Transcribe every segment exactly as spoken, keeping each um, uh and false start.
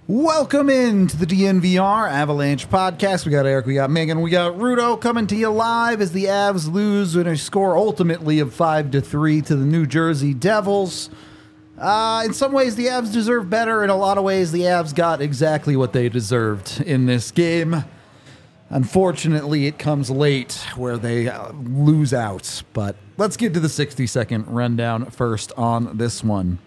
Welcome in to the D N V R Avalanche podcast. We got Eric, we got Megan, we got Rudo coming to you live as the Avs lose in a score ultimately of five to three to the New Jersey Devils. Uh, in some ways, the Avs deserve better. In a lot of ways, the Avs got exactly what they deserved in this game. Unfortunately, it comes late where they uh, lose out. But let's get to the sixty second rundown first on this one.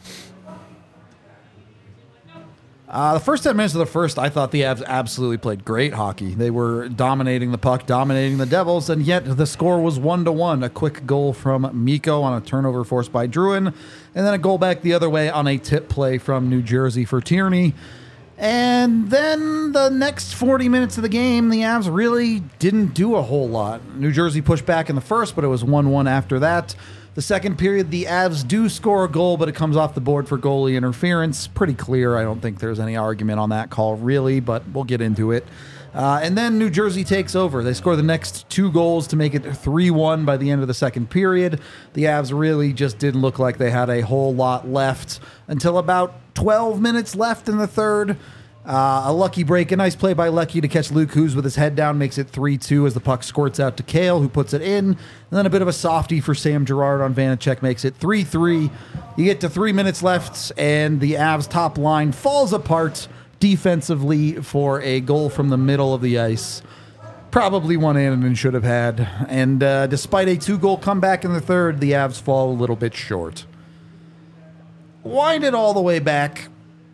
Uh, the first ten minutes of the first, I thought the Avs absolutely played great hockey. They were dominating the puck, dominating the Devils, and yet the score was one to one. A quick goal from Mikko on a turnover forced by Drouin, and then a goal back the other way on a tip play from New Jersey for Tierney. And then the next forty minutes of the game, the Avs really didn't do a whole lot. New Jersey pushed back in the first, but it was one one after that. The second period, the Avs do score a goal, but it comes off the board for goalie interference. Pretty clear. I don't think there's any argument on that call, really, but we'll get into it. Uh, and then New Jersey takes over. They score the next two goals to make it three one by the end of the second period. The Avs really just didn't look like they had a whole lot left until about twelve minutes left in the third. Uh, a lucky break, a nice play by Lucky to catch Luke Hughes with his head down, makes it three two as the puck squirts out to Kale, who puts it in. And then a bit of a softie for Sam Girard on Vanacek makes it three three. You get to three minutes left, and the Avs top line falls apart defensively for a goal from the middle of the ice. Probably one Annunen should have had. And uh, despite a two-goal comeback in the third, the Avs fall a little bit short. Wind it all the way back.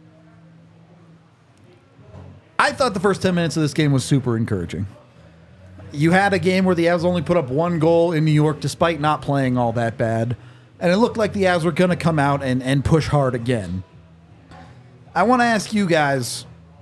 I thought the first ten minutes of this game was super encouraging. You had a game where the Avs only put up one goal in New York despite not playing all that bad, and it looked like the Avs were going to come out and, and push hard again. I want to ask you guys,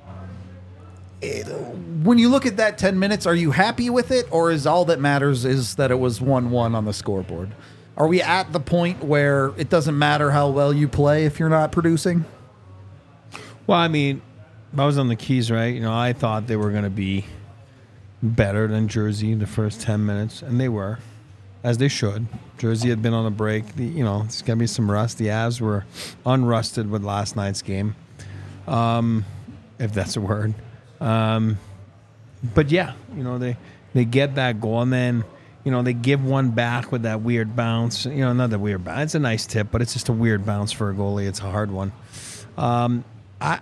when you look at that ten minutes, are you happy with it, or is all that matters is that it was one one on the scoreboard? Are we at the point where it doesn't matter how well you play if you're not producing? Well, I mean, I was on the Keys, right? You know, I thought they were going to be better than Jersey the first ten minutes, and they were, as they should. Jersey had been on a break. The, you know, it's going to be some rust. The Avs were unrusted with last night's game, um, if that's a word. Um, but, yeah, you know, they, they get that goal, and then, you know, they give one back with that weird bounce. You know, not that weird bounce. It's a nice tip, but it's just a weird bounce for a goalie. It's a hard one. Um, I...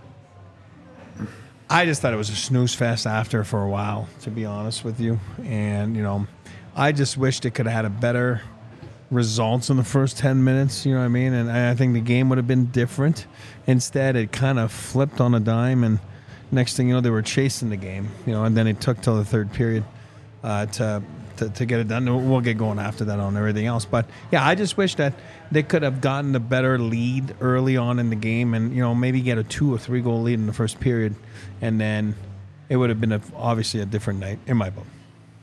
I just thought it was a snooze fest after for a while, to be honest with you. And, you know, I just wished it could have had a better results in the first ten minutes, you know what I mean? And I think the game would have been different. Instead, it kind of flipped on a dime, and next thing you know, they were chasing the game, you know, and then it took till the third period uh, to, to to get it done. We'll get going after that on everything else. But, yeah, I just wish that they could have gotten a better lead early on in the game and, you know, maybe get a two or three goal lead in the first period. And then it would have been a, obviously a different night in my book.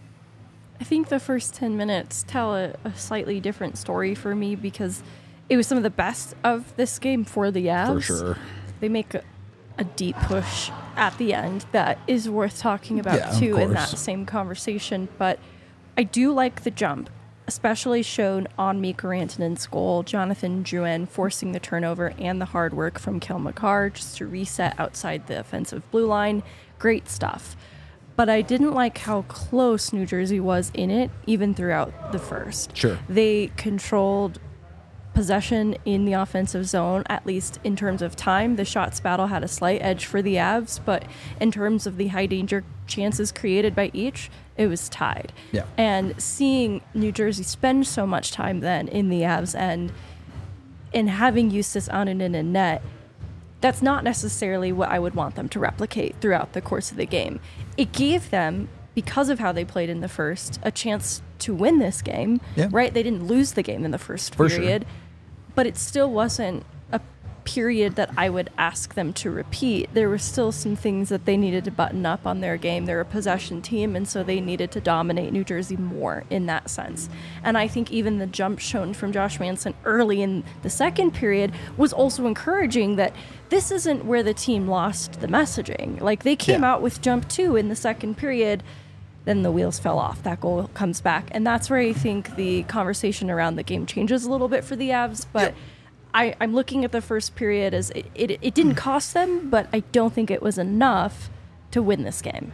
I think the first ten minutes tell a, a slightly different story for me because it was some of the best of this game for the Avs. For sure. They make a, a deep push at the end that is worth talking about, yeah, too, in that same conversation. But I do like the jump, especially shown on Mikko Rantanen's goal, Jonathan Drouin forcing the turnover and the hard work from Cale Makar just to reset outside the offensive blue line. Great stuff. But I didn't like how close New Jersey was in it, even throughout the first. Sure. They controlled possession in the offensive zone, at least in terms of time. The shots battle had a slight edge for the Avs, but in terms of the high danger chances created by each, it was tied. Yeah. And seeing New Jersey spend so much time then in the Avs end and having Justus Annunen in net, that's not necessarily what I would want them to replicate throughout the course of the game. It gave them, because of how they played in the first, a chance to win this game, yeah. right? They didn't lose the game in the first For period, sure. but it still wasn't a period that I would ask them to repeat. There were still some things that they needed to button up on their game. They're a possession team, and so they needed to dominate New Jersey more in that sense. And I think even the jump shown from Josh Manson early in the second period was also encouraging that this isn't where the team lost the messaging. Like, they came yeah. out with jump two in the second period, then the wheels fell off. That goal comes back. And that's where I think the conversation around the game changes a little bit for the Avs. But yep. I, I'm looking at the first period as it, it, it didn't cost them, but I don't think it was enough to win this game.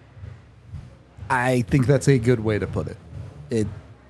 I think that's a good way to put it. It,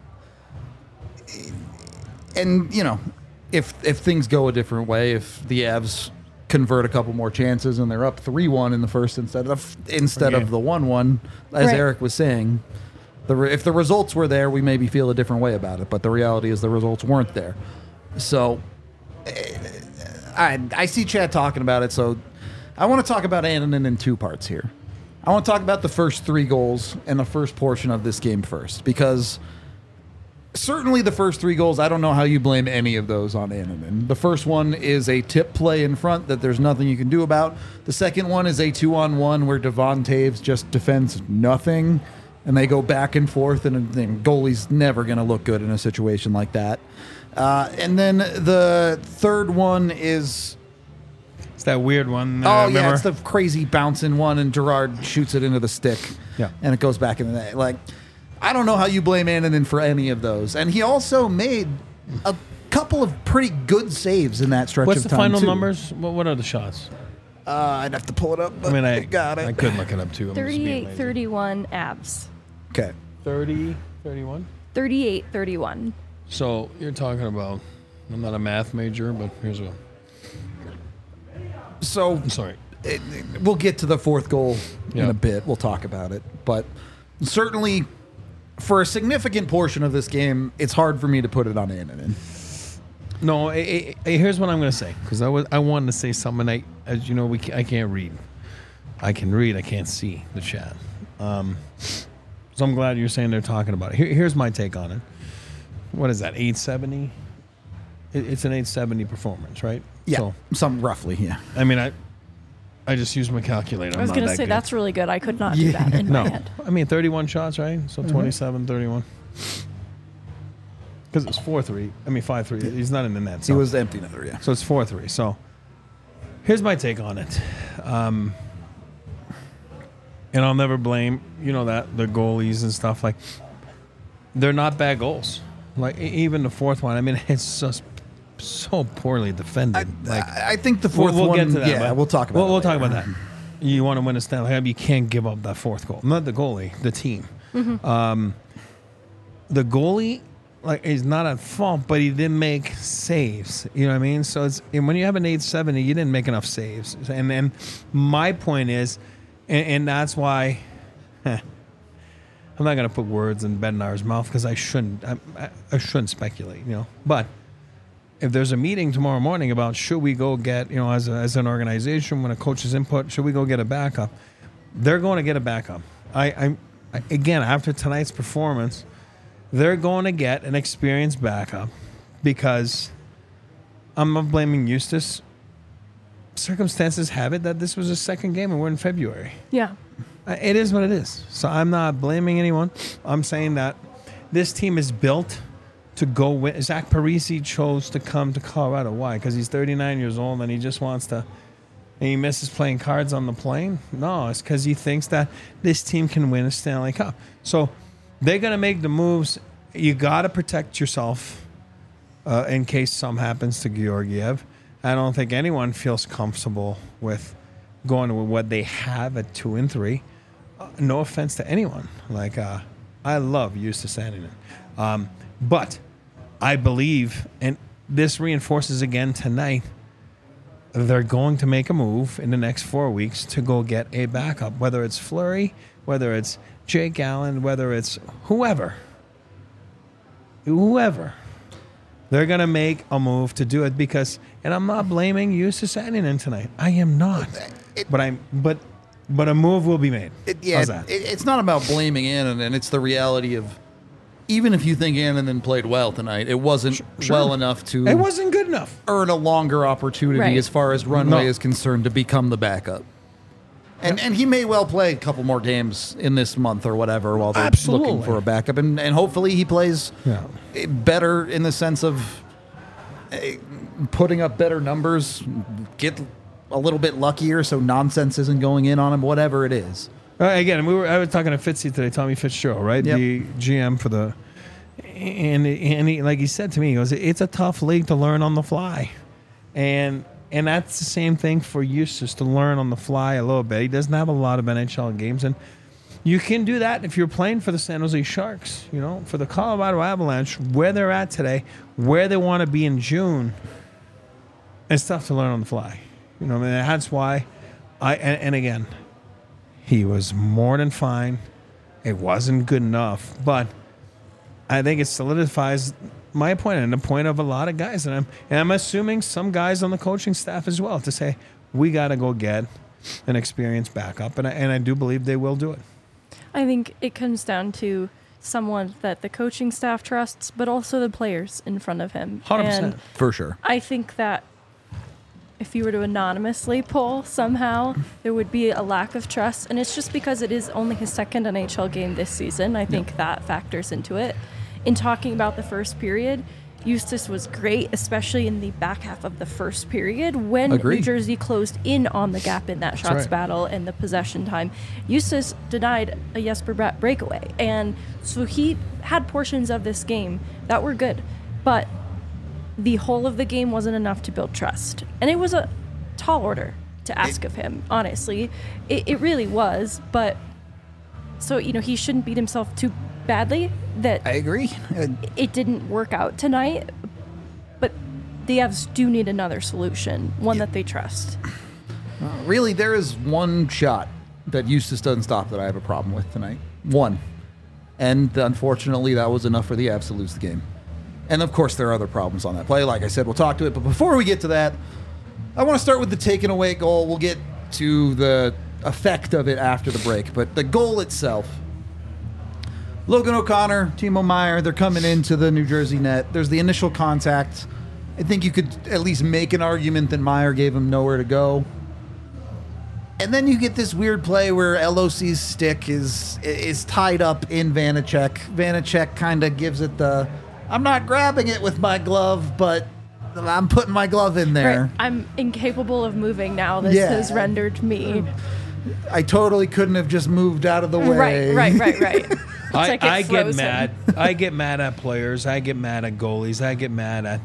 and you know, if if things go a different way, if the Avs convert a couple more chances and they're up three one in the first instead of instead Okay. of the one one, as Right. Eric was saying, the re- if the results were there, we maybe feel a different way about it. But the reality is the results weren't there. So eh, I I see Chad talking about it. So I want to talk about Annunen in two parts here. I want to talk about the first three goals and the first portion of this game first, because certainly the first three goals, I don't know how you blame any of those on Annunen. The first one is a tip play in front that there's nothing you can do about. The second one is a two-on-one where Devon Taves just defends nothing, and they go back and forth, and the goalie's never going to look good in a situation like that. Uh, and then the third one is... It's that weird one. Oh, uh, yeah, remember? it's the crazy bouncing one, and Gerard shoots it into the stick. Yeah. And it goes back in the net. Like, I don't know how you blame Annunen for any of those. And he also made a couple of pretty good saves in that stretch What's of the time, final too. numbers? What, what are the shots? Uh, I'd have to pull it up, but I mean, I got it. I could look it up too. I'm just being thirty-eight lazy. thirty-one Avs. Okay. thirty, thirty-one. thirty-eight thirty-one. So you're talking about, I'm not a math major, but here's a, So sorry. it, it- we'll get to the fourth goal in Yeah. a bit. We'll talk about it. But certainly, for a significant portion of this game, it's hard for me to put it on Annunen. No, eh, eh, eh, here's what I'm going to say, because I was I wanted to say something. I, as you know, we ca- I can't read. I can read. I can't see the chat. Um, so I'm glad you're saying they're talking about it. Here, here's my take on it. What is that? eight seventy. It, it's an eight seventy performance, right? Yeah, So, some roughly, yeah. I mean, I I just used my calculator. I was I'm going not to say that good. that's really good. I could not do Yeah. that in No, my head. I mean thirty-one shots, right? So twenty-seven, thirty-one. Because it's four three. I mean five three. He's not in the net. He So. was empty netter, yeah. So it's four three. So here's my take on it. Um, and I'll never blame, you know, that the goalies and stuff. Like, they're not bad goals. Like, e- even the fourth one, I mean, it's just so poorly defended. like, I, I think the we'll, fourth we'll one, get to that. yeah, but we'll talk about We'll, it we'll talk later. about that. You want to win a Stanley Cup, you can't give up that fourth goal. Not the goalie, the team. Um, the goalie, like, is not at fault, but he didn't make saves. You know what I mean? So it's and when you have an eight seventy, you didn't make enough saves. And then my point is, and, and that's why I'm not going to put words in Bednar's mouth because I shouldn't. I, I, I shouldn't speculate. You know, but if there's a meeting tomorrow morning about should we go get, you know, as a, as an organization, when a coach's input, should we go get a backup? They're going to get a backup. I, I, I again after tonight's performance. They're going to get an experienced backup because I'm not blaming Eustace. Circumstances have it that this was his second game and we're in February. Yeah. Uh, It is what it is. So I'm not blaming anyone. I'm saying that this team is built to go win. Zach Parisi chose to come to Colorado. Why? Because he's thirty-nine years old and he just wants to, and he misses playing cards on the plane? No, it's because he thinks that this team can win a Stanley Cup. So they're going to make the moves. You got to protect yourself uh, in case something happens to Georgiev. I don't think anyone feels comfortable with going with what they have at two and three. Uh, no offense to anyone. Like, uh, I love Eustace Annunen. Um, but I believe, and this reinforces again tonight, they're going to make a move in the next four weeks to go get a backup, whether it's Fleury, whether it's Jake Allen, whether it's whoever. Whoever. They're going to make a move to do it because, and I'm not blaming Eustace Annunen tonight. I am not. It- but I'm, but, but a move will be made. It, yeah, How's that? it, it's not about blaming Annunen. It's the reality of, even if you think Annunen played well tonight, it wasn't Sure. well enough to It wasn't good enough. earn a longer opportunity Right. as far as runway No. is concerned to become the backup. And and he may well play a couple more games in this month or whatever while they're Absolutely. looking for a backup. And, and hopefully he plays Yeah. better in the sense of eh, putting up better numbers, get a little bit luckier so nonsense isn't going in on him, whatever it is. Uh, again, we were. I was talking to Fitzy today, Tommy Fitzgerald, right? Yep. The G M for the. and and he, like he said to me, he goes, "It's a tough league to learn on the fly," and and that's the same thing for Eustace, to learn on the fly a little bit. He doesn't have a lot of N H L games, and you can do that if you're playing for the San Jose Sharks. You know, for the Colorado Avalanche, where they're at today, where they want to be in June. It's tough to learn on the fly. You know, I mean, that's why I and, and again, he was more than fine. It wasn't good enough, but I think it solidifies my point and the point of a lot of guys, and I'm and I'm assuming some guys on the coaching staff as well, to say we got to go get an experienced backup, and I, and I do believe they will do it. I think it comes down to someone that the coaching staff trusts, but also the players in front of him. one hundred percent. And For sure. I think that if you were to anonymously poll somehow, there would be a lack of trust. And it's just because it is only his second N H L game this season. I think that factors into it. In talking about the first period, Eustace was great, especially in the back half of the first period when Agreed. New Jersey closed in on the gap in that shots right. battle and the possession time. Eustace denied a Jesper Bratt breakaway. And so he had portions of this game that were good. But the whole of the game wasn't enough to build trust. And it was a tall order to ask of him, honestly. It, it really was. But so, you know, he shouldn't beat himself too badly that I agree. Uh, it didn't work out tonight. But the Avs do need another solution, one that they trust. Really, there is one shot that Eustace doesn't stop that I have a problem with tonight. One. And unfortunately, that was enough for the Avs to lose the game. And of course, there are other problems on that play. Like I said, we'll talk to it. But before we get to that, I want to start with the taken away goal. We'll get to the effect of it after the break. But the goal itself, Logan O'Connor, Timo Meier, they're coming into the New Jersey net. There's the initial contact. I think you could at least make an argument that Meier gave him nowhere to go. And then you get this weird play where L O C's stick is is tied up in Vanacek. Vanacek kind of gives it the, I'm not grabbing it with my glove, but I'm putting my glove in there. Right. I'm incapable of moving now. This Yeah. has rendered me. I totally couldn't have just moved out of the way. Right, right, right, right. It's I, like it I get froze him. mad. I get mad at players. I get mad at goalies. I get mad at.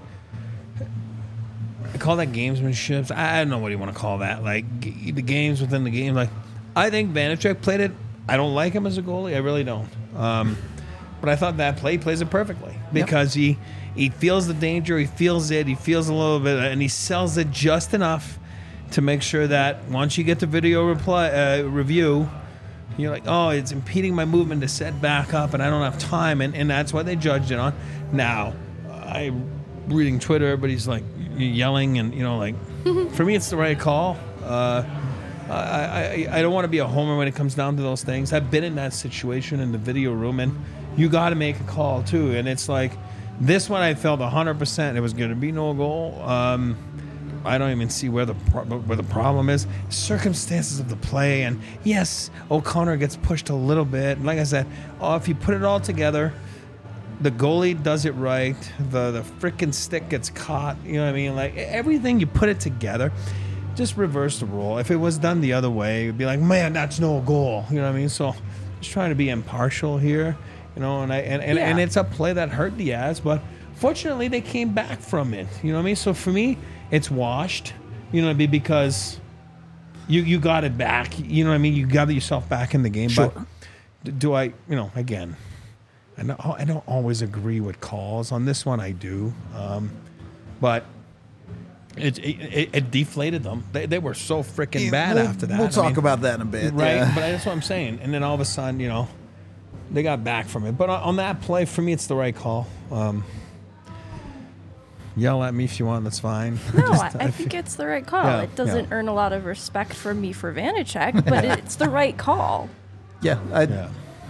I call that gamesmanship. I don't know what you want to call that. Like g- the games within the game. Like I think Vanacek played it. I don't like him as a goalie. I really don't. Um, but I thought that play he plays it perfectly because he he feels the danger. He feels it. He feels a little bit, and he sells it just enough to make sure that once you get the video reply uh, review. You're like, oh, it's impeding my movement to set back up, and I don't have time, and, and that's what they judged it on. Now, I'm reading Twitter, everybody's like yelling, and you know, like, for me, it's the right call. Uh, I, I I don't want to be a homer when it comes down to those things. I've been in that situation in the video room, and you got to make a call too. And it's like this one, I felt one hundred percent it was going to be no goal. Um, I don't even see where the pro- where the problem is. Circumstances of the play, and yes, O'Connor gets pushed a little bit. And like I said, oh, if you put it all together, the goalie does it right. The the freaking stick gets caught. You know what I mean? Like everything, you put it together. Just reverse the rule. If it was done the other way, it'd be like, man, that's no goal. You know what I mean? So just trying to be impartial here. You know, and I and, and, Yeah. and it's a play that hurt the Avs, but fortunately they came back from it. You know what I mean? So for me, it's washed, you know what I mean, because you you got it back. You know what I mean? You got yourself back in the game. Sure. But do I, you know, again, I don't, I don't always agree with calls. On this one, I do. Um, but it, it it deflated them. They, they were so freaking bad we'll, after that. We'll I talk mean, about that in a bit. right? yeah. But that's what I'm saying. And then all of a sudden, you know, they got back from it. But on, on that play, for me, it's the right call. Um, Yell at me if you want. That's fine. No, Just- I, I think it's the right call. Yeah, it doesn't yeah. earn a lot of respect from me for Vanacek, but it's the right call. Yeah, I, Yeah.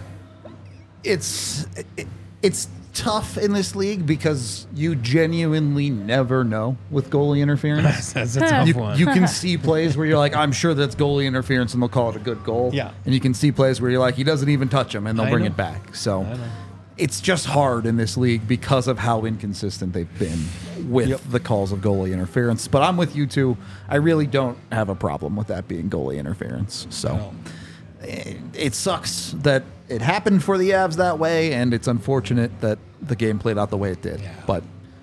it's it, it's tough in this league because you genuinely never know with goalie interference. That's a tough You, one. you can see plays where you're like, I'm sure that's goalie interference, and they'll call it a good goal. Yeah. And you can see plays where you're like, he doesn't even touch him, and they'll I bring know. it back. So I know. it's just hard in this league because of how inconsistent they've been with Yep. the calls of goalie interference. But I'm with you too. I really don't have a problem with that being goalie interference. So. No. it, it sucks that it happened for the Avs that way, and it's unfortunate that the game played out the way it did. Yeah. But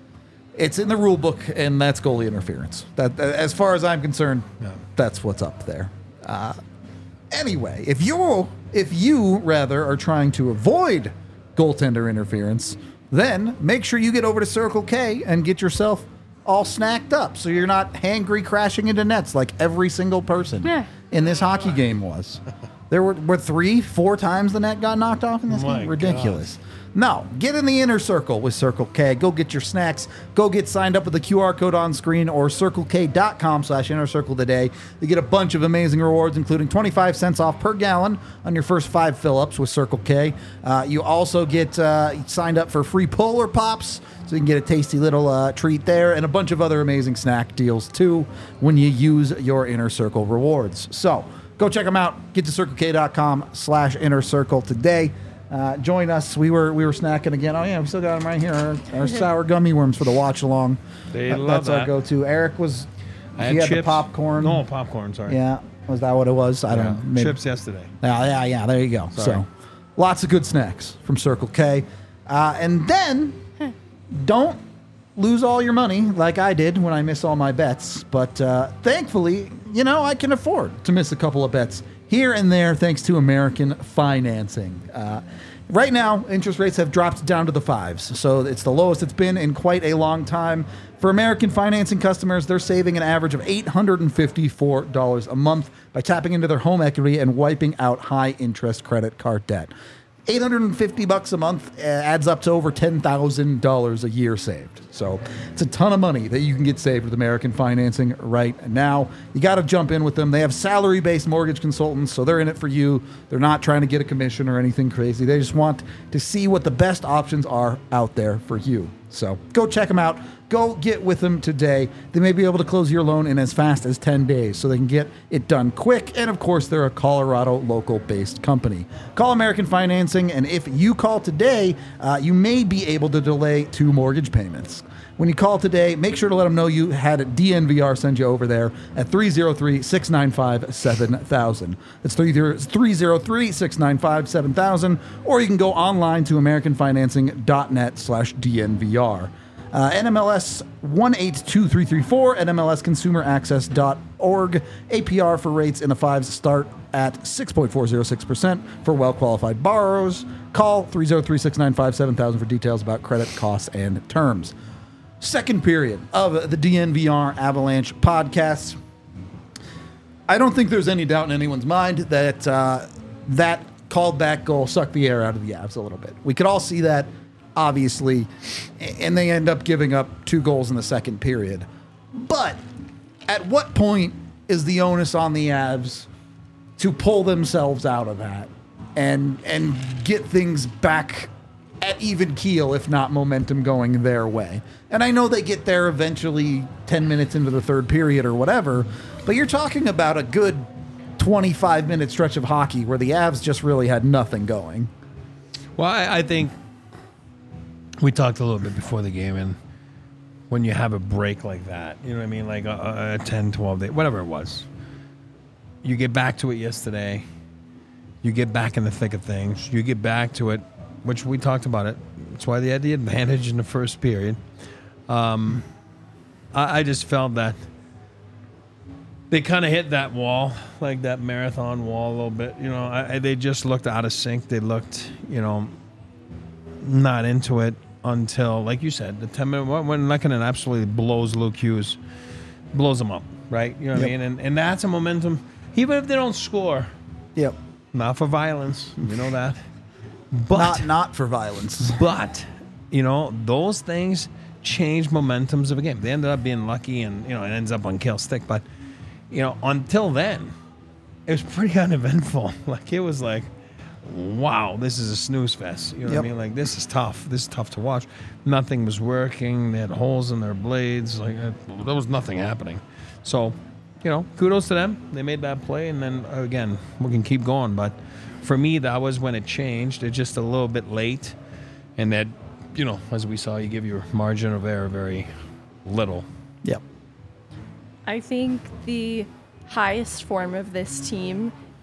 it's in the rule book, and that's goalie interference. That, as far as I'm concerned, Yeah. that's what's up there. Uh, anyway, if you if you rather are trying to avoid goaltender interference, then make sure you get over to Circle K and get yourself all snacked up, so you're not hangry crashing into nets like every single person Yeah. in this hockey game was. There were, were three, four times the net got knocked off in this My game. Ridiculous. No, get in the inner circle with Circle K. Go get your snacks. Go get signed up with the Q R code on screen or circlek.com slash inner circle today. You get a bunch of amazing rewards, including twenty-five cents off per gallon on your first five fill-ups with Circle K. Uh, you also get uh, signed up for free Polar Pops, so you can get a tasty little uh, treat there, and a bunch of other amazing snack deals, too, when you use your Inner Circle rewards. So go check them out. Get to circlek.com slash inner circle today. Uh, join us. We were we were snacking again. Oh, yeah, we still got them right here. Our, our sour gummy worms for the watch along. They That- love That's our that. go-to. Eric was, I he had had the chips. popcorn. No, popcorn, sorry. Yeah, was that what it was? I Yeah. don't know. Maybe. Chips yesterday. Yeah, yeah, yeah. There you go. Sorry. So, lots of good snacks from Circle K. Uh, and then, don't lose all your money like I did when I miss all my bets. But uh, thankfully, you know, I can afford to miss a couple of bets here and there thanks to American Financing. Uh, right now, interest rates have dropped down to the fives, so it's the lowest it's been in quite a long time. For American Financing customers, they're saving an average of eight hundred fifty-four dollars a month by tapping into their home equity and wiping out high-interest credit card debt. eight hundred fifty bucks a month uh, adds up to over ten thousand dollars a year saved. So it's a ton of money that you can get saved with American Financing right now. You got to jump in with them. They have salary-based mortgage consultants, so they're in it for you. They're not trying to get a commission or anything crazy. They just want to see what the best options are out there for you. So go check them out. Go get with them today. They may be able to close your loan in as fast as ten days, so they can get it done quick. And of course, they're a Colorado local-based company. Call American Financing, and if you call today, uh, you may be able to delay two mortgage payments. When you call today, make sure to let them know you had D N V R send you over there at three oh three, six nine five, seven thousand. That's three oh three, six nine five, seven thousand, or you can go online to americanfinancing.net slash DNVR. Uh, N M L S one eight two three three four, N M L S consumer access dot org. A P R for rates in the fives start at six point four oh six percent for well-qualified borrowers. Call three oh three, six nine five, seven thousand for details about credit costs and terms. Second period of the D N V R Avalanche podcast. I don't think there's any doubt in anyone's mind that uh, that called back goal sucked the air out of the Avs a little bit. We could all see that, obviously, and they end up giving up two goals in the second period. But at what point is the onus on the Avs to pull themselves out of that and and get things back at even keel, if not momentum going their way? And I know they get there eventually ten minutes into the third period or whatever, but you're talking about a good twenty-five minute stretch of hockey where the Avs just really had nothing going. Well, I, I think we talked a little bit before the game, and when you have a break like that, you know what I mean, like a, a ten, twelve day, whatever it was, you get back to it yesterday, you get back in the thick of things, you get back to it, which we talked about it. That's why they had the advantage in the first period. Um, I, I just felt that they kind of hit that wall, like that marathon wall a little bit. You know, I, I, they just looked out of sync. They looked, you know, not into it until, like you said, the ten minute when Lehkonen absolutely blows Luke Hughes, blows him up, right? You know what Yep. I mean? And and that's a momentum. Even if they don't score, Yep. not for violence, you know that. But Not not for violence. but you know, those things change momentums of a game. They ended up being lucky, and you know, it ends up on kill stick. But you know, until then, it was pretty uneventful. Like it was like, wow, this is a snooze fest. You know Yep. what I mean? Like this is tough. This is tough to watch. Nothing was working. They had holes in their blades. Like uh, there was nothing happening. So, you know, kudos to them. They made that play, and then again, we can keep going. But for me, that was when it changed. It's just a little bit late, and that, you know, as we saw, you give your margin of error very little. Yep. I think the highest form of this team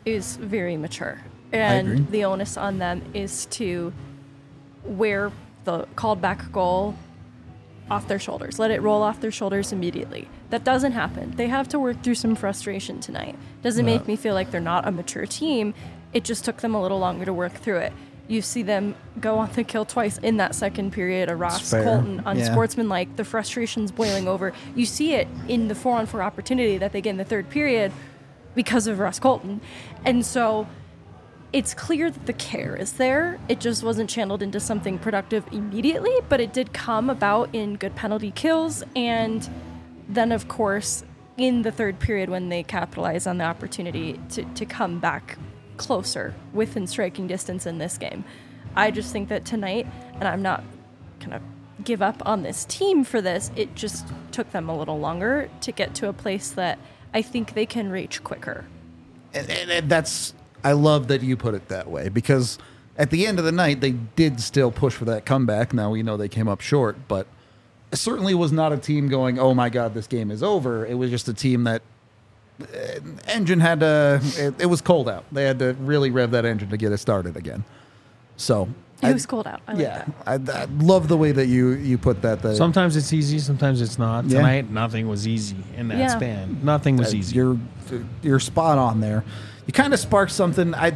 is very mature. And agree. the onus on them is to wear the called back goal off their shoulders. Let it roll off their shoulders immediately. That doesn't happen. They have to work through some frustration tonight. Doesn't Yeah. make me feel like they're not a mature team. It just took them a little longer to work through it. You see them go on the kill twice in that second period. A Ross fair. Colton Yeah. unsportsmanlike. The frustration's boiling over. You see it in the four on four opportunity that they get in the third period because of Ross Colton. And so it's clear that the care is there. It just wasn't channeled into something productive immediately, but it did come about in good penalty kills. And then, of course, in the third period when they capitalize on the opportunity to, to come back closer within striking distance in this game. I just think that tonight, and I'm not going to give up on this team for this, it just took them a little longer to get to a place that I think they can reach quicker. And, and, and that's, I love that you put it that way, because at the end of the night, they did still push for that comeback. Now we know they came up short, but it certainly was not a team going, oh my God, this game is over. It was just a team that uh, engine had to, it, it was cold out. They had to really rev that engine to get it started again. So It I- was cold out. I like yeah, that. I, I love the way that you, you put that. that Sometimes it's easy, sometimes it's not. Yeah. Tonight, nothing was easy in that Yeah. span. Nothing was Uh, easy. You're you're spot on there. You kind of sparked something. I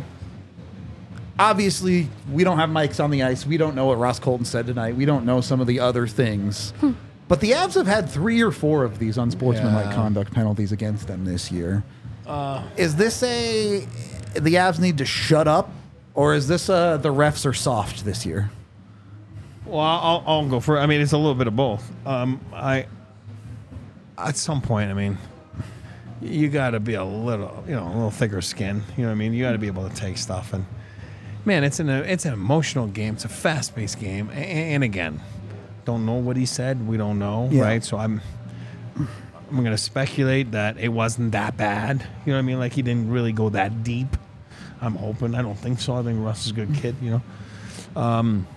obviously we don't have mics on the ice. We don't know what Ross Colton said tonight. We don't know some of the other things. But the Avs have had three or four of these unsportsmanlike Yeah. conduct penalties against them this year. Is this a the Avs need to shut up, or is this a the refs are soft this year? Well, I'll, I'll go for. I mean, it's a little bit of both. Um, I at some point, I mean, you got to be a little, you know, a little thicker skin. You know what I mean? You got to be able to take stuff. And man, it's an it's an emotional game. It's a fast paced game. And, and again, don't know what he said. We don't know, Yeah. right? So I'm I'm gonna speculate that it wasn't that bad. You know what I mean? Like he didn't really go that deep. I'm hoping. I don't think so. I think Russ is a good kid. You know. Um,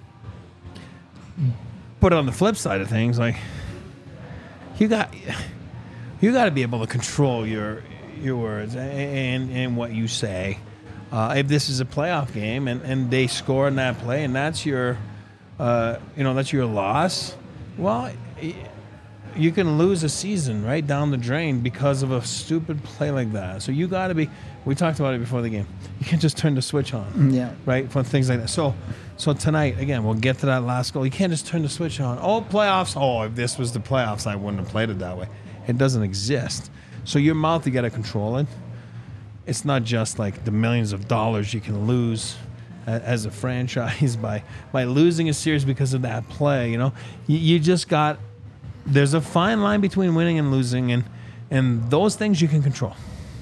But on the flip side of things, like you got you got to be able to control your your words and and what you say. Uh, if this is a playoff game and, and they score in that play and that's your uh, you know that's your loss, well, you can lose a season right down the drain because of a stupid play like that. So you got to be. We talked about it before the game. You can't just turn the switch on. Yeah. Right? For things like that. So so tonight, again, we'll get to that last goal. You can't just turn the switch on. Oh, playoffs. Oh, if this was the playoffs, I wouldn't have played it that way. It doesn't exist. So your mouth, you got to control it. It's not just like the millions of dollars you can lose a- as a franchise by by losing a series because of that play. You know, you, you just got. There's a fine line between winning and losing, and and those things you can control.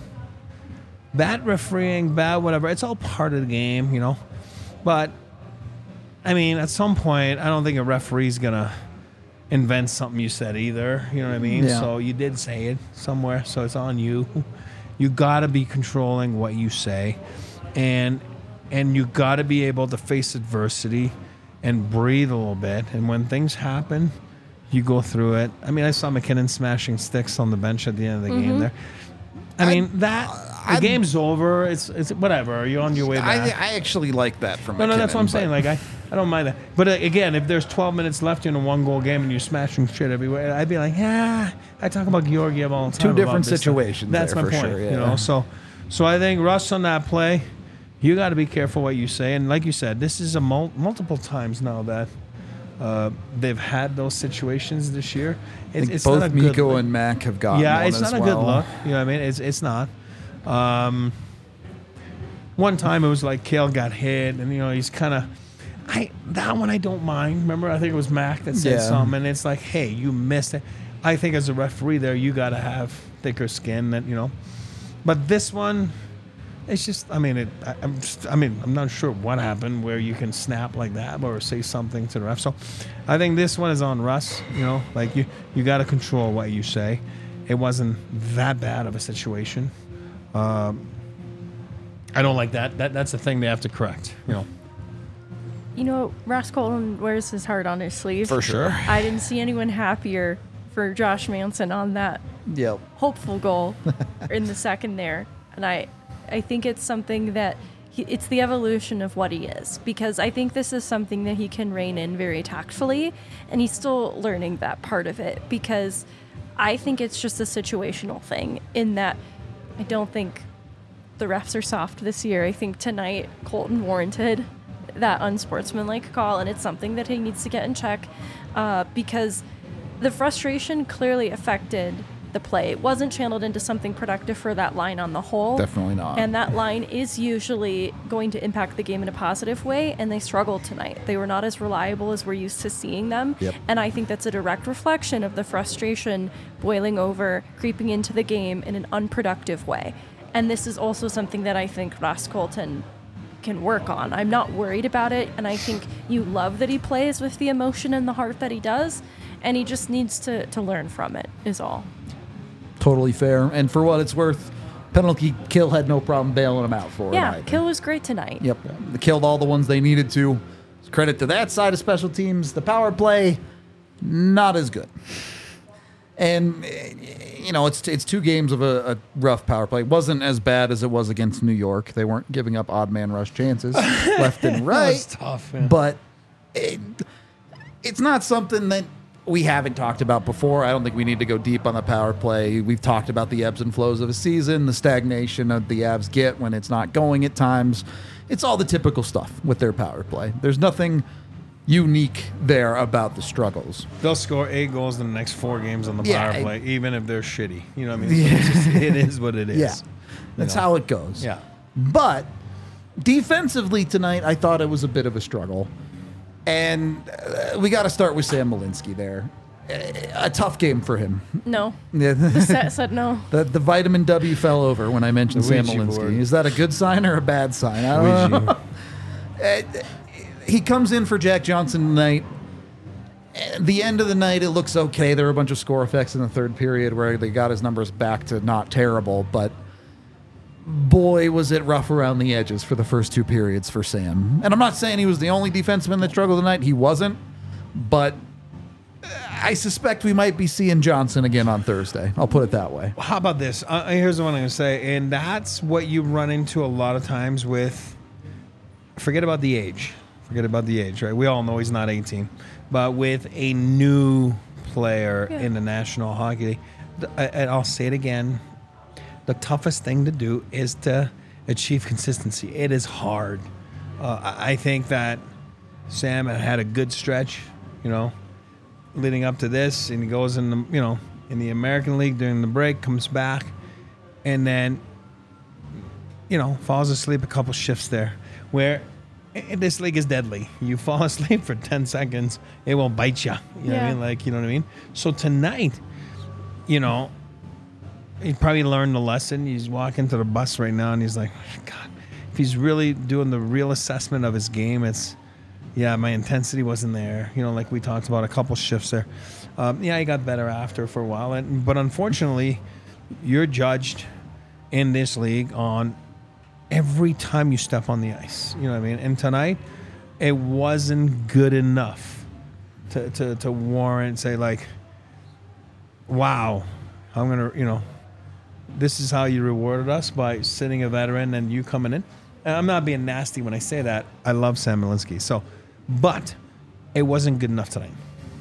Bad refereeing, bad whatever, it's all part of the game, you know. But, I mean, at some point, I don't think a referee's going to invent something you said either. You know what I mean? Yeah. So you did say it somewhere, so it's on you. You got to be controlling what you say. And and you got to be able to face adversity and breathe a little bit. And when things happen, you go through it. I mean, I saw McKinnon smashing sticks on the bench at the end of the game there. I mean, that the I'm- game's over. It's it's whatever. You're on your way I, back. I actually like that from no, no, that's McKinnon, what I'm but- saying. Like I, I don't mind that. But uh, again, if there's twelve minutes left in a one goal game and you're smashing shit everywhere, I'd be like, yeah. I talk about Georgiev all the time. Two about different this stuff. situations That's there my for point. sure, yeah. You know, so so I think Russ on that play, you got to be careful what you say. And like you said, this is a mul- multiple times now that. Uh, they've had those situations this year. I It's, think it's both not a good Mikko look. and Mac have gotten Yeah, one it's as not a well. good look. You know what I mean? It's it's not. Um, one time it was like Kale got hit, and you know he's kind of. I that one I don't mind. Remember, I think it was Mac that said Yeah. something, and it's like, hey, you missed it. I think as a referee, there you got to have thicker skin, that you know. But this one, it's just. I mean, it. I, I'm. Just, I mean, I'm not sure what happened where you can snap like that or say something to the ref. So, I think this one is on Russ. You know, like you, you got to control what you say. It wasn't that bad of a situation. Um, I don't like that. That that's the thing they have to correct. You know. You know, Ross Colton wears his heart on his sleeve. For sure. I didn't see anyone happier for Josh Manson on that Yep. hopeful goal in the second there. And I I think it's something that he, it's the evolution of what he is, because I think this is something that he can rein in very tactfully, and he's still learning that part of it, because I think it's just a situational thing in that I don't think the refs are soft this year. I think tonight Colton warranted that unsportsmanlike call, and it's something that he needs to get in check, uh, because the frustration clearly affected the play. It wasn't channeled into something productive for that line on the whole. Definitely not. And that line is usually going to impact the game in a positive way, and they struggled tonight. They were not as reliable as we're used to seeing them. Yep. And I think that's a direct reflection of the frustration boiling over, creeping into the game in an unproductive way. And this is also something that I think Ross Colton can work on. I'm not worried about it, and I think you love that he plays with the emotion and the heart that he does, and he just needs to, to learn from it, is all. Totally fair. And for what it's worth, penalty kill had no problem bailing him out for it. Yeah, either. Kill was great tonight. Yep. They killed all the ones they needed to. Credit to that side of special teams. The power play, not as good. And, you know, it's it's two games of a, a rough power play. It wasn't as bad as it was against New York. They weren't giving up odd man rush chances left and right. That was tough, man. But it, it's not something that we haven't talked about before. I don't think we need to go deep on the power play. We've talked about the ebbs and flows of a season, the stagnation that the Avs get when it's not going at times. It's all the typical stuff with their power play. There's nothing unique there about the struggles. They'll score eight goals in the next four games on the Yeah, power I- play, even if they're shitty. You know what I mean? So Yeah. it's just, it is what it is. Yeah, You that's know? how it goes. Yeah. But defensively tonight, I thought it was a bit of a struggle. And uh, we got to start with Sam Malinsky there. A tough game for him. No. Yeah. The set said no. The, the vitamin W fell over when I mentioned The Sam Ouija Malinsky. board. Is that a good sign or a bad sign? I don't know. Uh, he comes in for Jack Johnson tonight. At the end of the night, it looks okay. There were a bunch of score effects in the third period where they got his numbers back to not terrible, but boy, was it rough around the edges for the first two periods for Sam. And I'm not saying he was the only defenseman that struggled tonight. He wasn't, but I suspect we might be seeing Johnson again on Thursday. I'll put it that way. How about this? Uh, here's the one I'm going to say, and that's what you run into a lot of times with. Forget about the age. Forget about the age, right? We all know he's not eighteen, but with a new player Yeah. in the National Hockey League, th- I- and I'll say it again, the toughest thing to do is to achieve consistency. It is hard. Uh, I I think that Sam had had a good stretch, you know, leading up to this, and he goes in the, you know, in the American League during the break, comes back, and then, you know, falls asleep a couple shifts there, where i- this league is deadly. You fall asleep for ten seconds, it will bite you. You know what I Yeah. mean? Like, you know what I mean? So tonight, you know, he probably learned the lesson. He's walking to the bus right now, and he's like, God, if he's really doing the real assessment of his game, it's, yeah, my intensity wasn't there. You know, like we talked about a couple shifts there. Um, yeah, he got better after for a while, and but unfortunately, you're judged in this league on every time you step on the ice. You know what I mean? And tonight, it wasn't good enough to to, to warrant say like, wow, I'm gonna, you know, this is how you rewarded us by sitting a veteran and you coming in. And I'm not being nasty when I say that. I love Sam Malinsky. So, but it wasn't good enough tonight.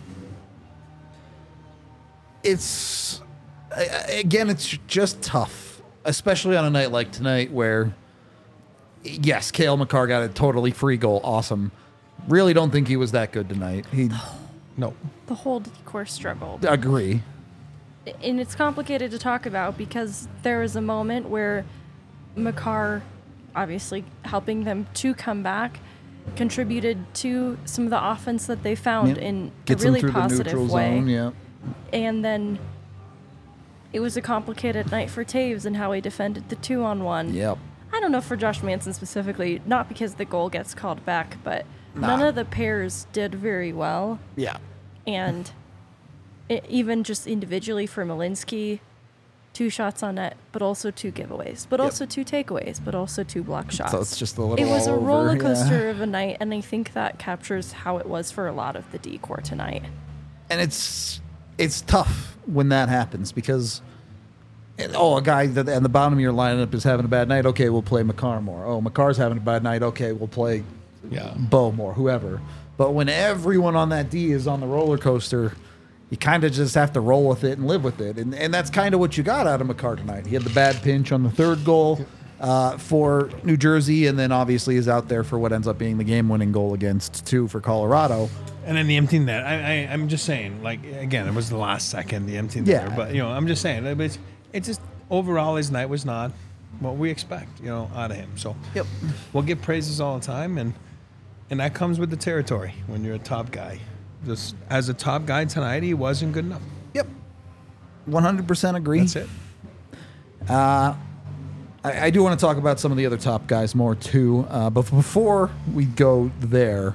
It's a- again, it's just tough, especially on a night like tonight where, yes, Cale Makar got a totally free goal. Awesome. Really don't think he was that good tonight. He No. The whole decor struggled. agree. And it's complicated to talk about because there was a moment where Makar, obviously helping them to come back, contributed to some of the offense that they found Yeah. in Gets a really him through the positive neutral way. zone. Yeah. And then it was a complicated night for Taves and how he defended the two on one. Yep. I don't know for Josh Manson specifically, not because the goal gets called back, but Nah. none of the pairs did very well. Yeah. And it, even just individually for Malinsky, two shots on net, but also two giveaways, but Yep. also two takeaways, but also two block shots. So it's just a little. It was all a over, roller yeah. coaster of a night, and I think that captures how it was for a lot of the decor tonight. And it's it's tough when that happens because Oh, a guy that and the bottom of your lineup is having a bad night. Okay, we'll play McCarr more. Oh, McCarr's having a bad night. Okay, we'll play Yeah. Bo more, whoever. But when everyone on that D is on the roller coaster, you kind of just have to roll with it and live with it. And and that's kind of what you got out of McCarr tonight. He had the bad pinch on the third goal uh, for New Jersey, and then obviously is out there for what ends up being the game-winning goal against two for Colorado. And then the empty net. I, I, I'm just saying, like, again, it was the last second, the empty net. Yeah. But, you know, I'm just saying, it's, it's just overall his night was not what we expect, you know, out of him. So Yep. we'll get praises all the time, and and that comes with the territory when you're a top guy. Just as a top guy tonight, he wasn't good enough. Yep. one hundred percent agree. That's it. I, I do want to talk about some of the other top guys more too. Uh, but before we go there,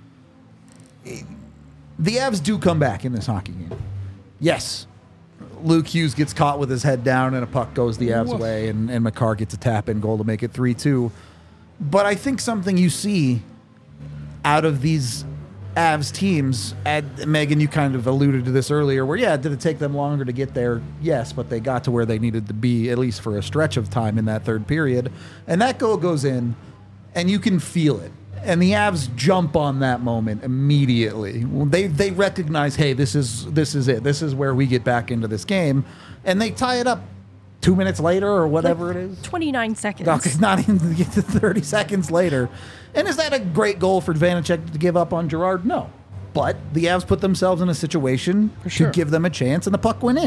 the Avs do come back in this hockey game. Yes, Luke Hughes gets caught with his head down and a puck goes the Avs' Woof. way, and, and McCarr gets a tap-in goal to make it three two. But I think something you see out of these Avs teams, and Megan, you kind of alluded to this earlier, where, yeah, did it take them longer to get there? Yes, but they got to where they needed to be, at least for a stretch of time in that third period. And that goal goes in, and you can feel it. And the Avs jump on that moment immediately. They they recognize, hey, this is this is it. This is where we get back into this game. And they tie it up two minutes later or whatever Like it is. twenty-nine seconds. Okay, not even get to thirty seconds later. And is that a great goal for Vanacek to give up on Gerard? No. But the Avs put themselves in a situation sure. to give them a chance, and the puck went in.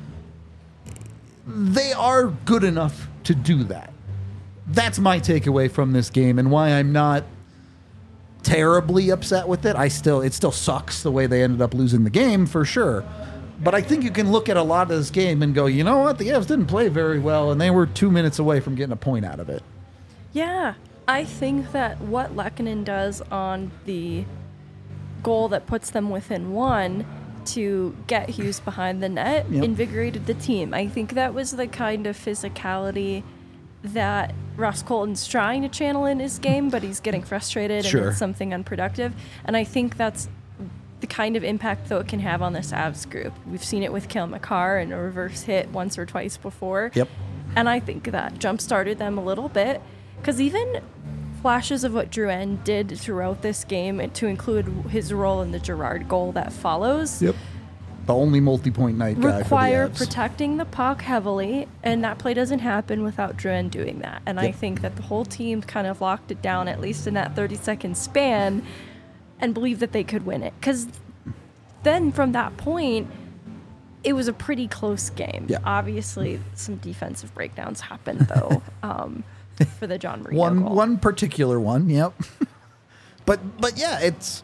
They are good enough to do that. That's my takeaway from this game, and why I'm not terribly upset with it. I still, it still sucks the way they ended up losing the game, for sure. But I think you can look at a lot of this game and go, you know what? The Avs didn't play very well, and they were two minutes away from getting a point out of it. Yeah, I think that what Lehkonen does on the goal that puts them within one to get Hughes behind the net Yep. invigorated the team. I think that was the kind of physicality that Ross Colton's trying to channel in his game, but he's getting frustrated Sure. and it's something unproductive. And I think that's the kind of impact, though, it can have on this Avs group. We've seen it with Cale McCarr and a reverse hit once or twice before. Yep. And I think that jump-started them a little bit, because even flashes of what Drouin did throughout this game, to include his role in the Gerard goal that follows, Yep. The only multi-point night guy require for the Avs. protecting the puck heavily, and that play doesn't happen without Drouin doing that. And I Yep. think that the whole team kind of locked it down, at least in that thirty-second span, and believed that they could win it. Because then from that point, it was a pretty close game. Yeah. Obviously, some defensive breakdowns happened, though, um, for the John Marino one goal. one particular one. Yep. but but yeah, it's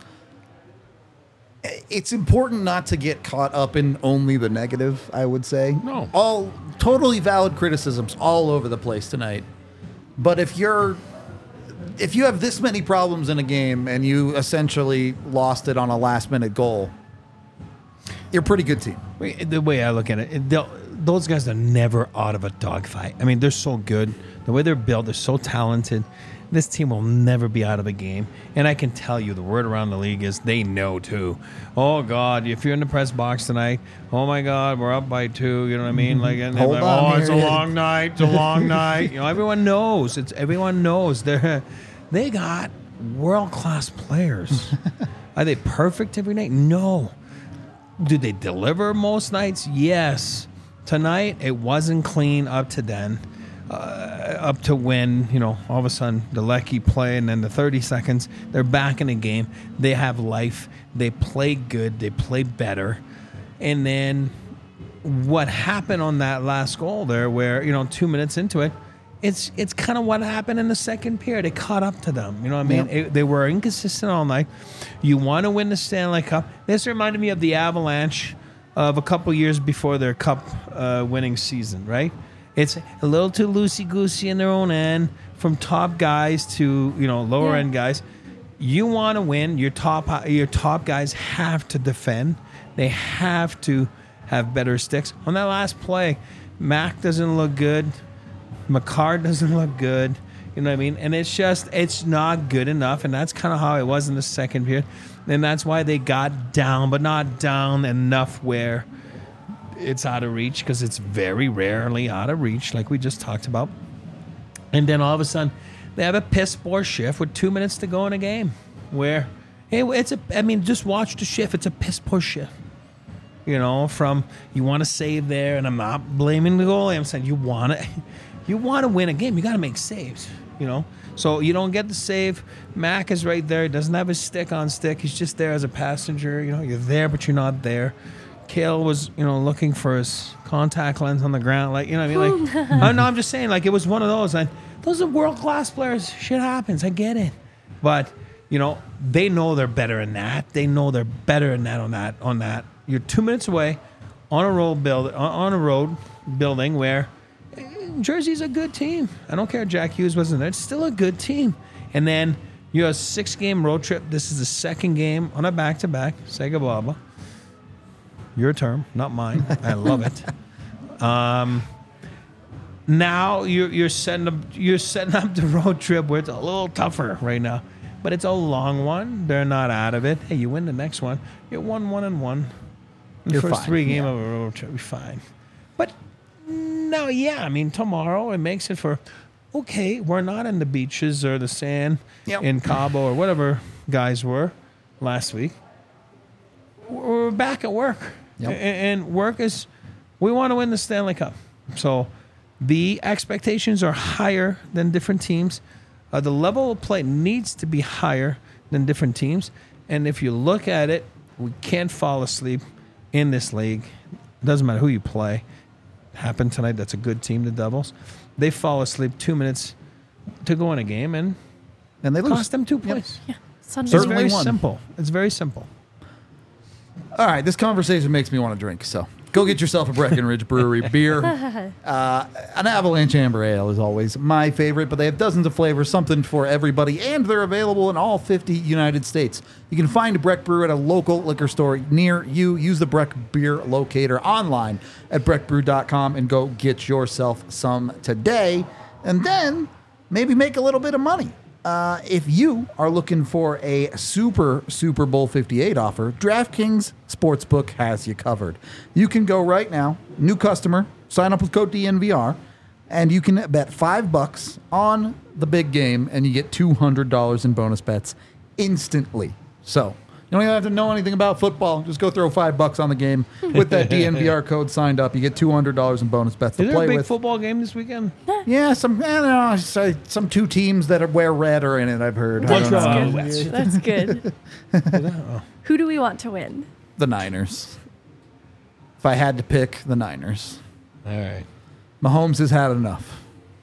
it's important not to get caught up in only the negative, I would say. No. All totally valid criticisms all over the place tonight. But if you're if you have this many problems in a game and you essentially lost it on a last minute goal, you're a pretty good team. Wait, the way I look at it, it they'll- those guys are never out of a dogfight. I mean, they're so good. The way they're built, they're so talented. This team will never be out of a game. And I can tell you, the word around the league is they know too. Oh, God, if you're in the press box tonight, oh, my God, we're up by two. You know what I mean? Like, and they're Hold like, on oh, it's a here. long night. It's a long night. You know, everyone knows. It's everyone knows. They're they got world-class players. Are they perfect every night? No. Do they deliver most nights? Yes. Tonight, it wasn't clean up to then, uh, up to when, you know, all of a sudden the Lecky play, and then the thirty seconds, they're back in the game. They have life. They play good. They play better. And then what happened on that last goal there, where, you know, two minutes into it, it's it's kind of what happened in the second period. It caught up to them. You know what I mean? Yeah. It, they were inconsistent all night. You want to win the Stanley Cup. This reminded me of the Avalanche of a couple years before their cup uh, winning season, right? It's a little too loosey-goosey in their own end, from top guys to, you know, lower Yeah. end guys. You want to win. Your top your top guys have to defend. They have to have better sticks. On that last play, Mac doesn't look good. McCarr doesn't look good. You know what I mean? And it's just, it's not good enough. And that's kind of how it was in the second period. And that's why they got down, but not down enough where it's out of reach because it's very rarely out of reach, like we just talked about. And then all of a sudden, they have a piss poor shift with two minutes to go in a game. Where, hey, it's a. I mean, just watch the shift. It's a piss poor shift. You know, from you want to save there, and I'm not blaming the goalie. I'm saying you want to, you want to win a game. You got to make saves. You know, so you don't get the save. Mac is right there. He doesn't have his stick on stick. He's just there as a passenger. You know, you're there, but you're not there. Kale was, you know, looking for his contact lens on the ground. Like, you know what I mean? Like, I no, I'm just saying, like, it was one of those. And those are world-class players. Shit happens. I get it. But, you know, they know they're better than that. They know they're better than that on that. On that. You're two minutes away on a road build, on a road building where Jersey's a good team. I don't care if Jack Hughes wasn't there. It's still a good team. And then you have a six-game road trip. This is the second game on a back-to-back. Sega Baba. Your term, not mine. I love it. Um, now you're you're setting up you're setting up the road trip where it's a little tougher right now, but it's a long one. They're not out of it. Hey, you win the next one. You're one one and one. The You're first fine. three game Yeah. of a road trip, you're fine. But no, yeah, I mean tomorrow it makes it for okay. We're not in the beaches or the sand Yep. in Cabo or whatever guys were last week. We're back at work. Yep. A- And work is, we want to win the Stanley Cup. So the expectations are higher than different teams. Uh, the level of play needs to be higher than different teams. And if you look at it, we can't fall asleep in this league. It doesn't matter who you play. It happened tonight. That's a good team, the Devils. They fall asleep two minutes to go in a game and And they lose. cost them two points. Sunday. It's Certainly very one. simple. It's very simple. All right, this conversation makes me want to drink, so go get yourself a Breckenridge Brewery beer. Uh, an Avalanche Amber Ale is always my favorite, but they have dozens of flavors, something for everybody, and they're available in all fifty United States. You can find Breck Brew at a local liquor store near you. Use the Breck Beer Locator online at breck brew dot com and go get yourself some today, and then maybe make a little bit of money. Uh, if you are looking for a super Super Bowl fifty-eight offer, DraftKings Sportsbook has you covered. You can go right now, new customer, sign up with code D N V R, and you can bet five bucks on the big game, and you get two hundred dollars in bonus bets instantly. So you don't even have to know anything about football. Just go throw five bucks on the game with that D N V R code signed up. You get two hundred dollars in bonus bets to Is there play a big with. football game this weekend? Yeah, some I don't know, say some two teams that are, wear red are in it. I've heard. I What's don't know. wrong? That's good. That's good. Who do we want to win? The Niners. If I had to pick, the Niners. All right. Mahomes has had enough.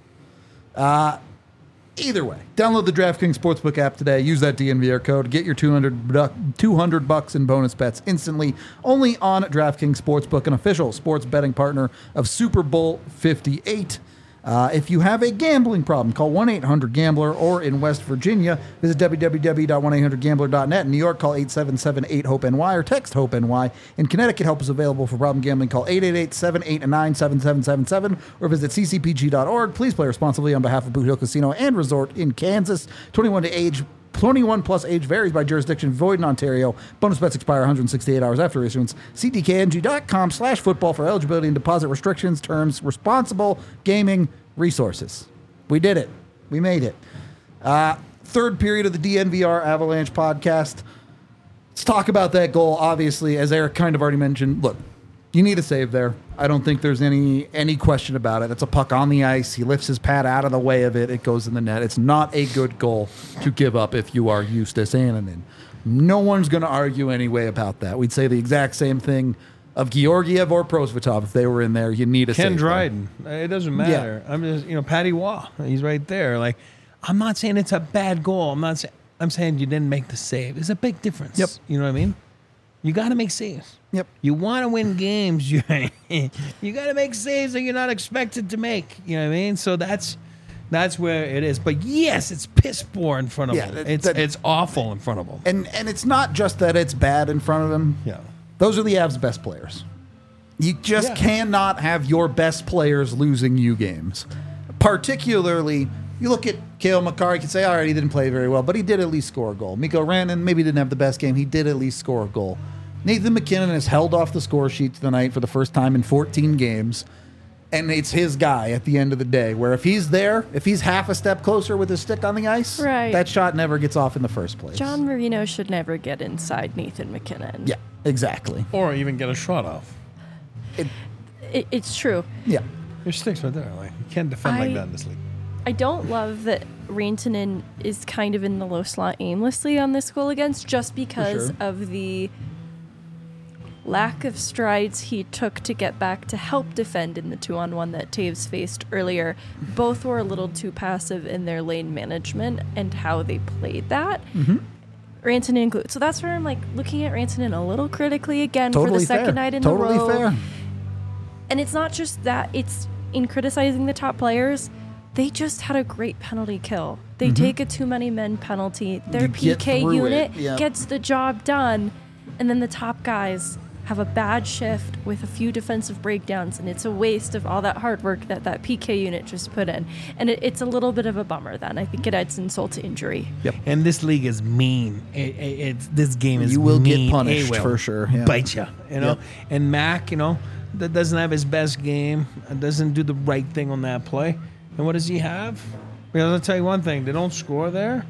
Uh, either way, download the DraftKings Sportsbook app today. Use that D N V R code. Get your two hundred, buck, two hundred bucks in bonus bets instantly. Only on DraftKings Sportsbook, an official sports betting partner of Super Bowl fifty-eight. Uh, if you have a gambling problem, call one eight hundred gambler, or in West Virginia, visit w w w dot one eight hundred gambler dot net. In New York, call eight seven seven eight hope N Y or text HOPE-NY. In Connecticut, help is available for problem gambling. Call eight eight eight, seven eight nine, seven seven seven seven or visit c c p g dot org. Please play responsibly on behalf of Boot Hill Casino and Resort in Kansas. twenty-one to age. twenty-one plus age varies by jurisdiction. Void in Ontario. Bonus bets expire one hundred sixty-eight hours after issuance. c d k n g dot com slash football for eligibility and deposit restrictions, terms, responsible gaming resources. We did it. We made it. Uh, third period of the D N V R Avalanche podcast. Let's talk about that goal. Obviously, as Eric kind of already mentioned, look, you need a save there. I don't think there's any any question about it. It's a puck on the ice. He lifts his pad out of the way of it. It goes in the net. It's not a good goal to give up if you are Justus Annunen. No one's going to argue anyway about that. We'd say the exact same thing of Georgiev or Prosvetov if they were in there. You need a Ken save there. Dryden. It doesn't matter. I'm just, you know, Patty Waugh. He's right there. Like, I'm not saying it's a bad goal. I'm not saying, I'm saying you didn't make the save. There's a big difference. Yep. You know what I mean? You got to make saves. Yep. You want to win games. You you got to make saves that you're not expected to make. You know what I mean? So that's that's where it is. But yes, it's piss poor in front of Yeah, him. that- It's that- it's awful in front of him. And and it's not just that it's bad in front of him. Yeah. Those are the Avs' best players. You just Yeah. cannot have your best players losing you games. Particularly, you look at Cale Makar, you can say, all right, he didn't play very well, but he did at least score a goal. Mikko Rantanen maybe didn't have the best game. He did at least score a goal. Nathan MacKinnon has held off the score sheet tonight for the first time in fourteen games. And it's his guy at the end of the day, where if he's there, if he's half a step closer with his stick on the ice, right. that shot never gets off in the first place. John Marino should never get inside Nathan MacKinnon. Yeah, exactly. Or even get a shot off. It, It, it's true. yeah. Your stick's right there. Like you can't defend I- like that in this league. I don't love that Rantanen is kind of in the low slot aimlessly on this goal against, just because sure. of the lack of strides he took to get back to help defend in the two-on-one that Taves faced earlier. Both were a little too passive in their lane management and how they played that. Mm-hmm. Rantanen included. So that's where I'm like looking at Rantanen a little critically again Totally for the second fair. night in totally a row. fair. And it's not just that, it's in criticizing the top players. They just had a great penalty kill. They Mm-hmm. take a too many men penalty. Their You P get K through unit it, yeah. gets the job done. And then the top guys have a bad shift with a few defensive breakdowns. And it's a waste of all that hard work that that P K unit just put in. And it, it's a little bit of a bummer then. I think it adds insult to injury. Yep. And this league is mean. It, it, it's this game is You will get mean. punished, It will for sure, yeah. Bite you, you know. Yep. And Mac, you know, that doesn't have his best game. Doesn't do the right thing on that play. And what does he have? Because I'll tell you one thing: they don't score there.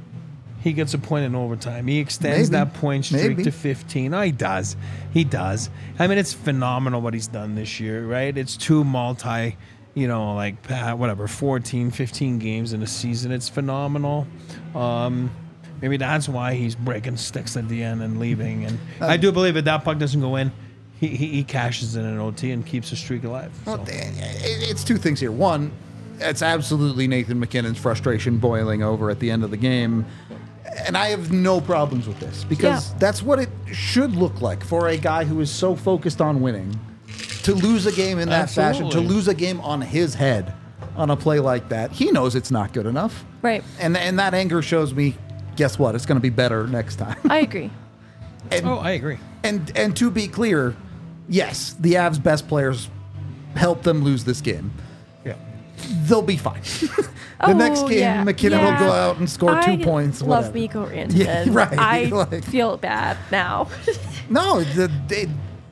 He gets a point in overtime. He extends Maybe. that point streak Maybe. to fifteen. Oh, he does. He does. I mean, it's phenomenal what he's done this year, right? It's two multi, you know, like uh, whatever, fourteen, fifteen games in a season. It's phenomenal. Um, maybe that's why he's breaking sticks at the end and leaving. And Uh, I do believe if that puck doesn't go in, he, he, he cashes in an O T and keeps the streak alive. Well, So. it- it's two things here. One, it's absolutely Nathan MacKinnon's frustration boiling over at the end of the game. And I have no problems with this because Yeah. that's what it should look like for a guy who is so focused on winning to lose a game in that fashion, to Absolutely. lose a game on his head on a play like that. He knows it's not good enough. Right. And, and that anger shows me, guess what? It's going to be better next time. I agree. And, Oh, I agree. and, and to be clear, yes, the Avs' best players helped them lose this game. Yeah. They'll be fine. the Oh, next game, yeah. McKinnon Yeah. will go out and score two I points. love whatever. Mikko Rantanen. Yeah, right, I like- feel bad now. No, the, they,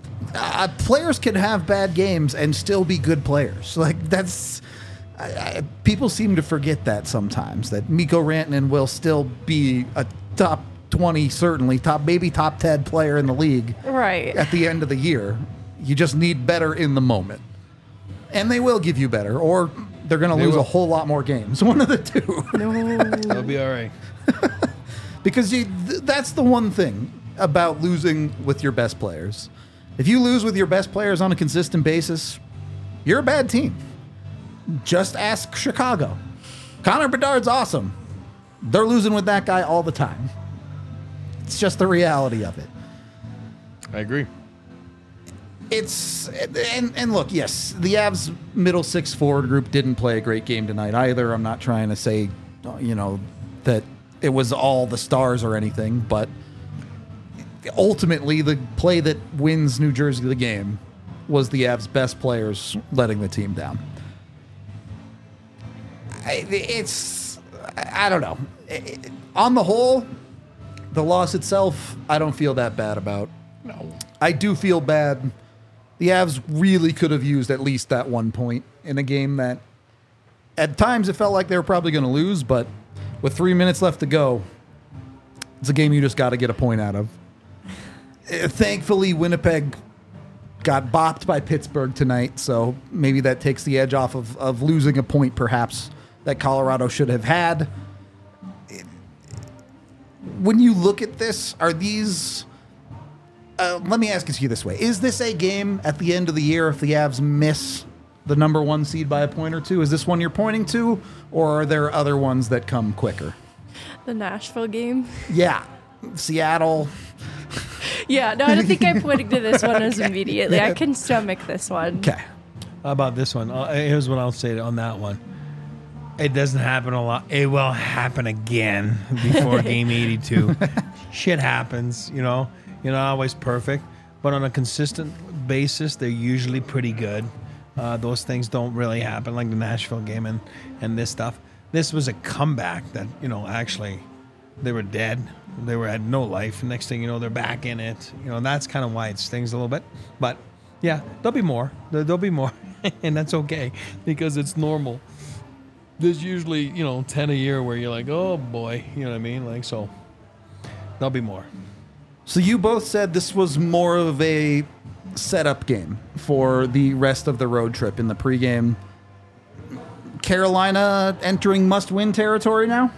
uh, players can have bad games and still be good players. Like that's I, I, people seem to forget that sometimes. That Mikko Rantanen will still be a top twenty, certainly top, maybe top ten player in the league Right. at the end of the year. You just need better in the moment, and they will give you better, or they're going to They lose will. a whole lot more games. One of the two. No. They'll be all right. Because you, th- that's the one thing about losing with your best players. If you lose with your best players on a consistent basis, you're a bad team. Just ask Chicago. Connor Bedard's awesome. They're losing with that guy all the time. It's just the reality of it. I agree. It's and and look, yes, the Avs middle six forward group didn't play a great game tonight either. I'm not trying to say, you know, that it was all the stars or anything, but ultimately the play that wins New Jersey the game was the Avs' best players letting the team down. I- It's I don't know. It- On the whole, the loss itself, I don't feel that bad about. No. I do feel bad. The Avs really could have used at least that one point in a game that at times it felt like they were probably going to lose, but with three minutes left to go, it's a game you just got to get a point out of. Uh, Thankfully, Winnipeg got bopped by Pittsburgh tonight, so maybe that takes the edge off of, of losing a point perhaps that Colorado should have had. When you look at this, are these... Uh, let me ask it to you this way. Is this a game at the end of the year if the Avs miss the number one seed by a point or two? Is this one you're pointing to, or are there other ones that come quicker? The Nashville game. Yeah. Seattle. Yeah, no, I don't think I'm pointing to this one as immediately. I can stomach this one. Okay. How about this one? Uh, here's what I'll say on that one. It doesn't happen a lot. It will happen again before game eighty-two. Shit happens, you know. You're not always perfect, but on a consistent basis, they're usually pretty good. Uh, those things don't really happen, like the Nashville game and, and this stuff. This was a comeback that, you know, actually they were dead. They were had no life. Next thing you know, they're back in it. You know, and that's kind of why it stings a little bit. But yeah, there'll be more. There, there'll be more, and that's okay because it's normal. There's usually, you know, ten a year where you're like, oh boy, you know what I mean? Like, so there'll be more. So you both said this was more of a setup game for the rest of the road trip in the pregame. Carolina entering must-win territory now?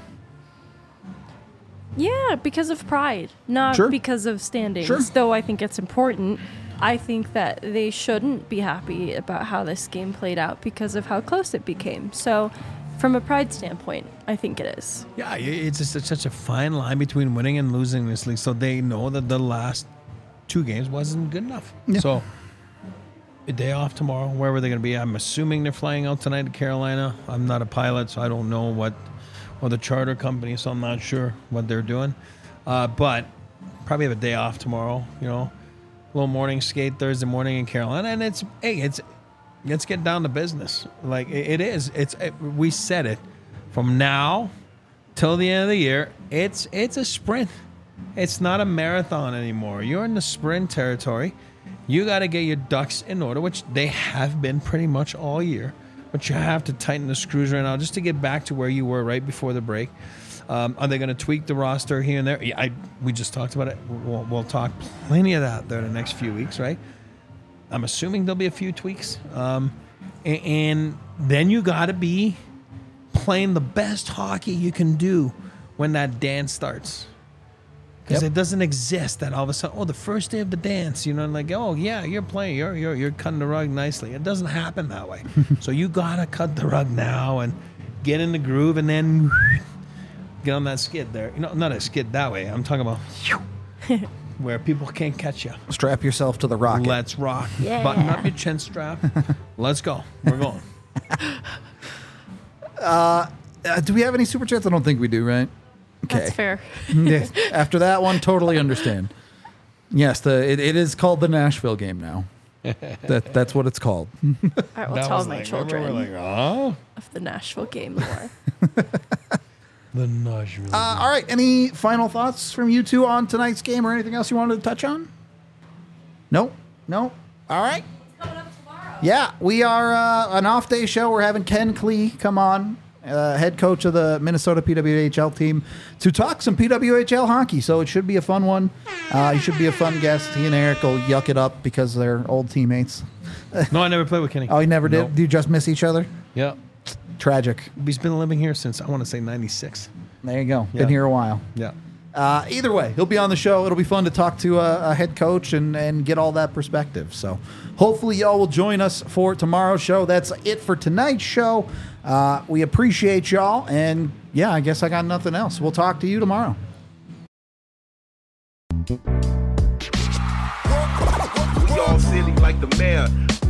Yeah, because of pride, not Sure. because of standings. Sure. Though I think it's important. I think that they shouldn't be happy about how this game played out because of how close it became. So, from a pride standpoint, I think it is. Yeah, it's just it's such a fine line between winning and losing this league. So they know that the last two games wasn't good enough. Yeah. So a day off tomorrow. Where were they going to be? I'm assuming they're flying out tonight to Carolina. I'm not a pilot, so I don't know what, or the charter company, so I'm not sure what they're doing. Uh, but probably have a day off tomorrow. You know, a little morning skate Thursday morning in Carolina, and it's hey, it's let's get down to business. Like it, it is. It's it, we said it from now till the end of the year. It's it's a sprint. It's not a marathon anymore. You're in the sprint territory. You got to get your ducks in order, which they have been pretty much all year. But you have to tighten the screws right now just to get back to where you were right before the break. Um, are they going to tweak the roster here and there? Yeah, I, we just talked about it. We'll, we'll talk plenty of that there in the next few weeks, right? I'm assuming there'll be a few tweaks. Um, and, and then you got to be playing the best hockey you can do when that dance starts. Because Yep. it doesn't exist that all of a sudden, oh, the first day of the dance, you know, like, oh, yeah, you're playing, you're you're you're cutting the rug nicely. It doesn't happen that way. So you got to cut the rug now and get in the groove and then get on that skid there. You know, not a skid that way. I'm talking about where people can't catch you. Strap yourself to the rocket. Let's rock. Yeah. Button up your chin strap. Let's go. We're going. Uh, do we have any super chats? I don't think we do, right? Okay. That's fair. Yeah, after that one, totally understand. Yes, the it, it is called the Nashville game now. That that's what it's called. I will That tell was my like, children remember we're like, oh, of the Nashville game lore. the Nashville. Uh, all right. Any final thoughts from you two on tonight's game, or anything else you wanted to touch on? No. No. All right. Yeah, we are uh, an off day show. We're having Ken Klee come on, uh, head coach of the Minnesota P W H L team, to talk some P W H L hockey. So it should be a fun one. Uh, he should be a fun guest. He and Eric will yuck it up because they're old teammates. No, I never played with Kenny. Oh, you never did? Nope. Do you just miss each other? Yeah. Tragic. He's been living here since, I want to say, ninety-six. There you go. Yeah. Been here a while. Yeah. Uh, either way, he'll be on the show. It'll be fun to talk to a, a head coach and, and get all that perspective. So hopefully y'all will join us for tomorrow's show. That's it for tonight's show. Uh, we appreciate y'all. And yeah, I guess I got nothing else. We'll talk to you tomorrow. We all silly like the mayor.